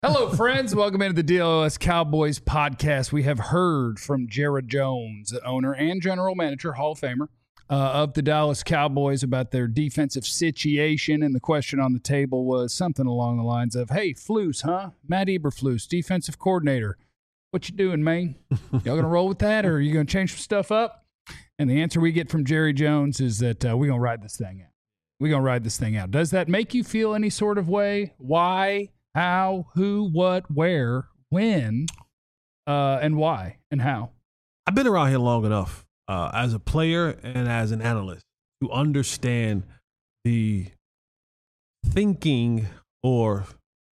Hello, friends. Welcome into the DLS Cowboys podcast. We have heard from Jerry Jones, the owner and general manager, Hall of Famer, of the Dallas Cowboys about their defensive situation. And the question on the table was something along the lines of, hey, Flus, huh? Matt Eberflus, defensive coordinator. What you doing, man? Y'all going to roll with that, or are you going to change some stuff up? And the answer we get from Jerry Jones is that we're going to ride this thing out. We're going to ride this thing out. Does that make you feel any sort of way? Why? How, who, what, where, when, and why, and how? I've been around here long enough as a player and as an analyst to understand the thinking or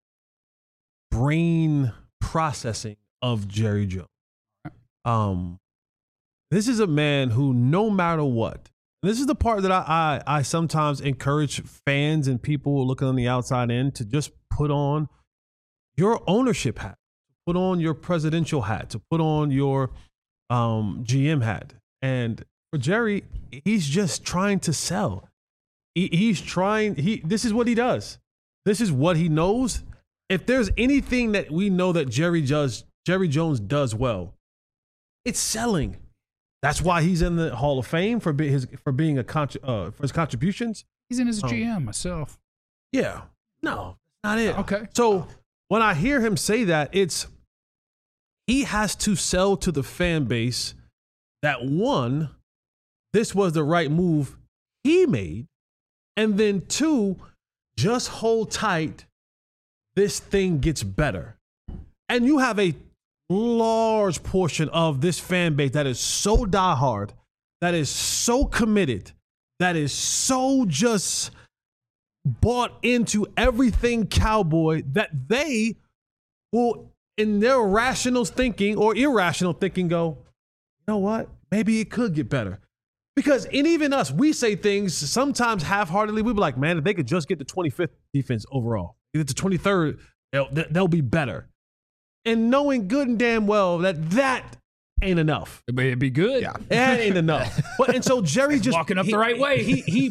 brain processing of Jerry Jones. This is a man who, no matter what, this is the part that I sometimes encourage fans and people looking on the outside in to just put on your ownership hat, put on your presidential hat, to put on your GM hat. And for Jerry, he's just trying to sell. This is what he does. This is what he knows. If there's anything that we know that Jerry Jones does well, it's selling. That's why he's in the Hall of Fame for his contributions. He's in as a GM myself. Yeah. No, not it. Okay. So when I hear him say that, he has to sell to the fan base that, one, this was the right move he made, and then two, just hold tight, this thing gets better. And you have a large portion of this fan base that is so diehard, that is so committed, that is so just bought into everything Cowboy, that they will, in their rational thinking or irrational thinking, go, you know what? Maybe it could get better. Because, and even us, we say things sometimes half-heartedly. We be like, man, if they could just get the 25th defense overall, get the 23rd, they'll be better. And knowing good and damn well that ain't enough. It'd be good. Yeah, that ain't enough. And so Jerry just walking up the right way. He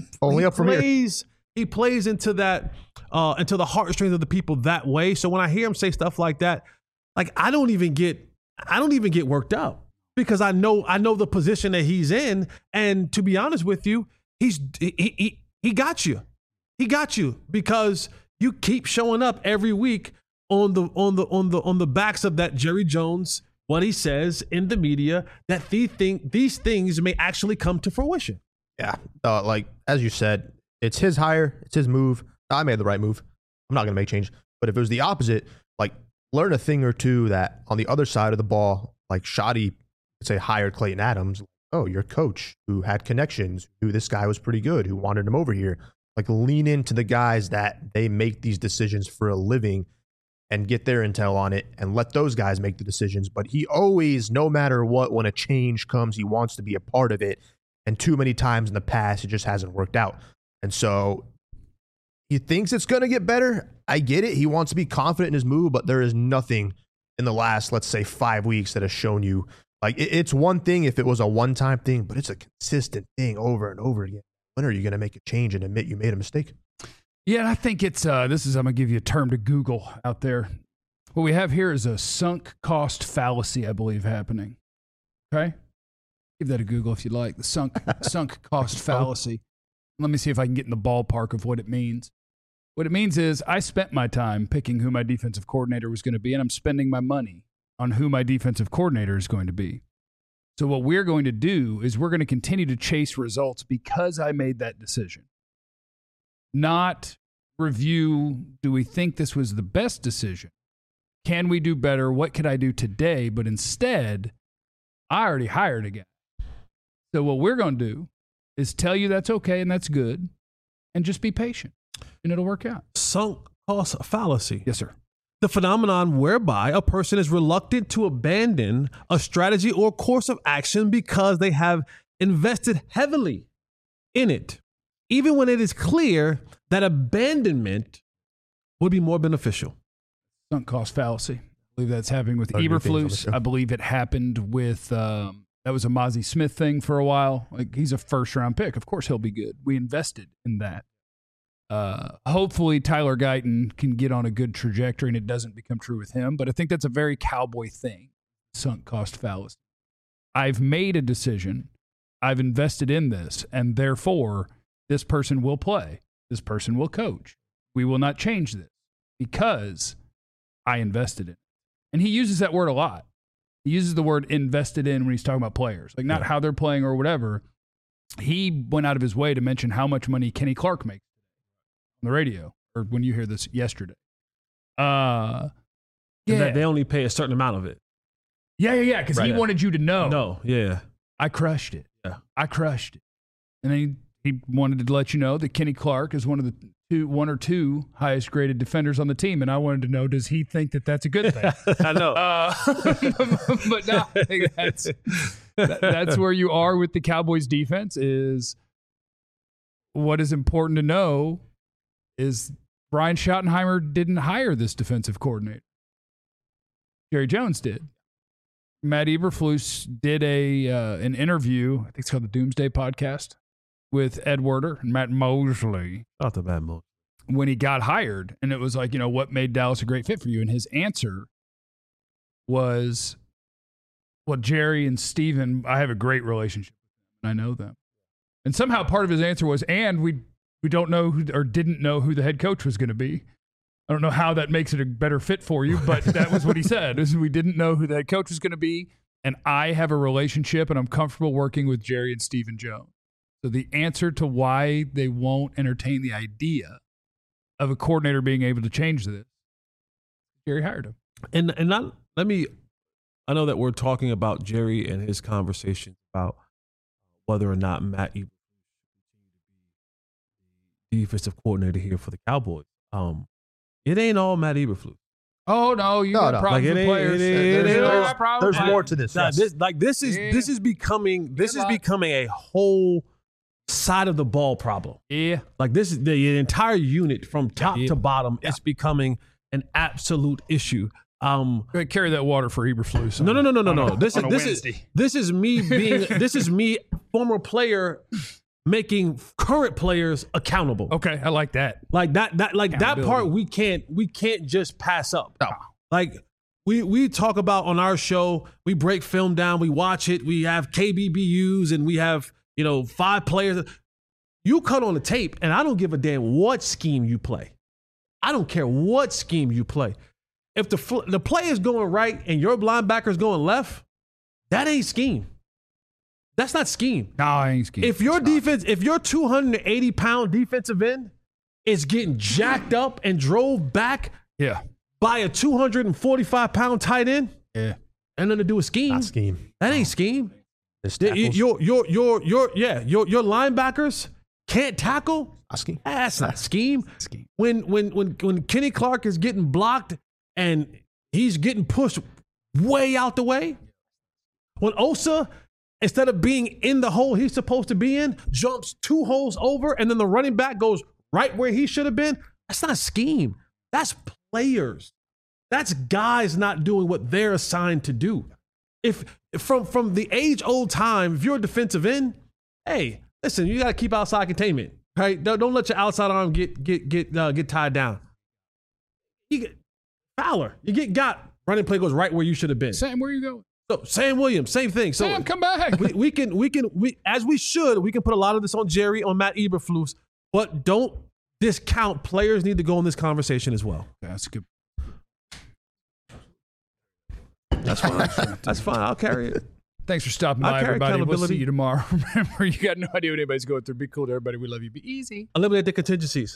plays into that, into the heartstrings of the people that way. So when I hear him say stuff like that, like I don't even get worked up, because I know the position that he's in. And to be honest with you, he got you. He got you because you keep showing up every week on the backs of that Jerry Jones, what he says in the media, that these things may actually come to fruition. Yeah, like as you said, it's his hire, it's his move. I made the right move. I'm not going to make change. But if it was the opposite, like learn a thing or two that on the other side of the ball, like Shoddy, say, hired Clayton Adams. Oh, your coach who had connections, who this guy was pretty good, who wanted him over here. Like lean into the guys that they make these decisions for a living and get their intel on it and let those guys make the decisions. But he always, no matter what, when a change comes, he wants to be a part of it. And too many times in the past, it just hasn't worked out. And so he thinks it's going to get better. I get it. He wants to be confident in his move, but there is nothing in the last, let's say, 5 weeks that has shown you. Like, it's one thing if it was a one-time thing, but it's a consistent thing over and over again. When are you going to make a change and admit you made a mistake? Yeah, and I think it's I'm going to give you a term to Google out there. What we have here is a sunk cost fallacy, I believe, happening. Okay? Give that a Google if you'd like. The sunk cost fallacy. Let me see if I can get in the ballpark of what it means. What it means is I spent my time picking who my defensive coordinator was going to be, and I'm spending my money on who my defensive coordinator is going to be. So what we're going to do is we're going to continue to chase results because I made that decision. Not review, do we think this was the best decision? Can we do better? What could I do today? But instead, I already hired a guy. So what we're going to do is tell you that's okay and that's good, and just be patient, and it'll work out. Sunk cost fallacy. Yes, sir. The phenomenon whereby a person is reluctant to abandon a strategy or course of action because they have invested heavily in it, even when it is clear that abandonment would be more beneficial. Sunk cost fallacy. I believe that's happening with Eberflus. I believe it happened with, that was a Mozzie Smith thing for a while. Like, he's a first-round pick. Of course he'll be good. We invested in that. Hopefully Tyler Guyton can get on a good trajectory and it doesn't become true with him. But I think that's a very Cowboy thing, sunk cost fallacy. I've made a decision. I've invested in this, and therefore this person will play. This person will coach. We will not change this because I invested in it. And he uses that word a lot. He uses the word invested in when he's talking about players, like not how they're playing or whatever. He went out of his way to mention how much money Kenny Clark makes on the radio, or when you hear this yesterday. That they only pay a certain amount of it. Yeah, because he wanted you to know. No, yeah. I crushed it. Yeah. I crushed it. And then he wanted to let you know that Kenny Clark is one of the one or two highest graded defenders on the team. And I wanted to know, does he think that that's a good thing? I know. But no, I think that's where you are with the Cowboys defense. Is what is important to know is Brian Schottenheimer didn't hire this defensive coordinator. Jerry Jones did. Matt Eberflus did an interview, I think it's called the Doomsday Podcast, with Ed Werder and Matt Mosley. Not the bad Mosley. When he got hired, and it was like, what made Dallas a great fit for you? And his answer was, well, Jerry and Steven, I have a great relationship with them, and I know them. And somehow part of his answer was, and we don't know who, or didn't know who the head coach was going to be. I don't know how that makes it a better fit for you, but that was what he said. Is we didn't know who the head coach was going to be, and I have a relationship, and I'm comfortable working with Jerry and Stephen Jones. So the answer to why they won't entertain the idea of a coordinator being able to change this, Jerry hired him. And I know that we're talking about Jerry and his conversation about whether or not Matt Eberflus should be the defensive coordinator here for the Cowboys. It ain't all Matt Eberflus. Oh no, you got problems with players. There's more to this. Nah, this is becoming a whole side of the ball problem. Yeah, like this is the entire unit from top to bottom. It's becoming an absolute issue. Carry that water for Eberflus. No. This is me, former player, making current players accountable. Okay, I like that. Like that part we can't just pass up. No. Like we talk about on our show, we break film down, we watch it, we have KBBUs, and we have 5 players. You cut on the tape, and I don't give a damn what scheme you play. I don't care what scheme you play. If the play is going right and your linebacker's going left, that ain't scheme. That's not scheme. No, I ain't scheme. If your defense, if your 280-pound defensive end is getting jacked up and drove back by a 245-pound tight end, ain't nothing to do with scheme. Not scheme. That ain't scheme. Your linebackers can't tackle. Not scheme. That's not scheme. When Kenny Clark is getting blocked and he's getting pushed way out the way, when Osa, instead of being in the hole he's supposed to be in, jumps 2 holes over, and then the running back goes right where he should have been, that's not scheme. That's players. That's guys not doing what they're assigned to do. If from the age-old time, if you're a defensive end, hey, listen, you got to keep outside containment, right? Don't let your outside arm get tied down. You get Fowler, you get got. Running play goes right where you should have been. Sam, where you going? So Sam Williams, same thing. So Sam, come back. We can as we should. We can put a lot of this on Jerry, on Matt Eberflus, but don't discount players. Need to go in this conversation as well. That's good. That's fine. That's fine. I'll carry it. Thanks for stopping by, everybody. We'll see you tomorrow. Remember, you got no idea what anybody's going through. Be cool to everybody. We love you. Be easy. Eliminate the contingencies.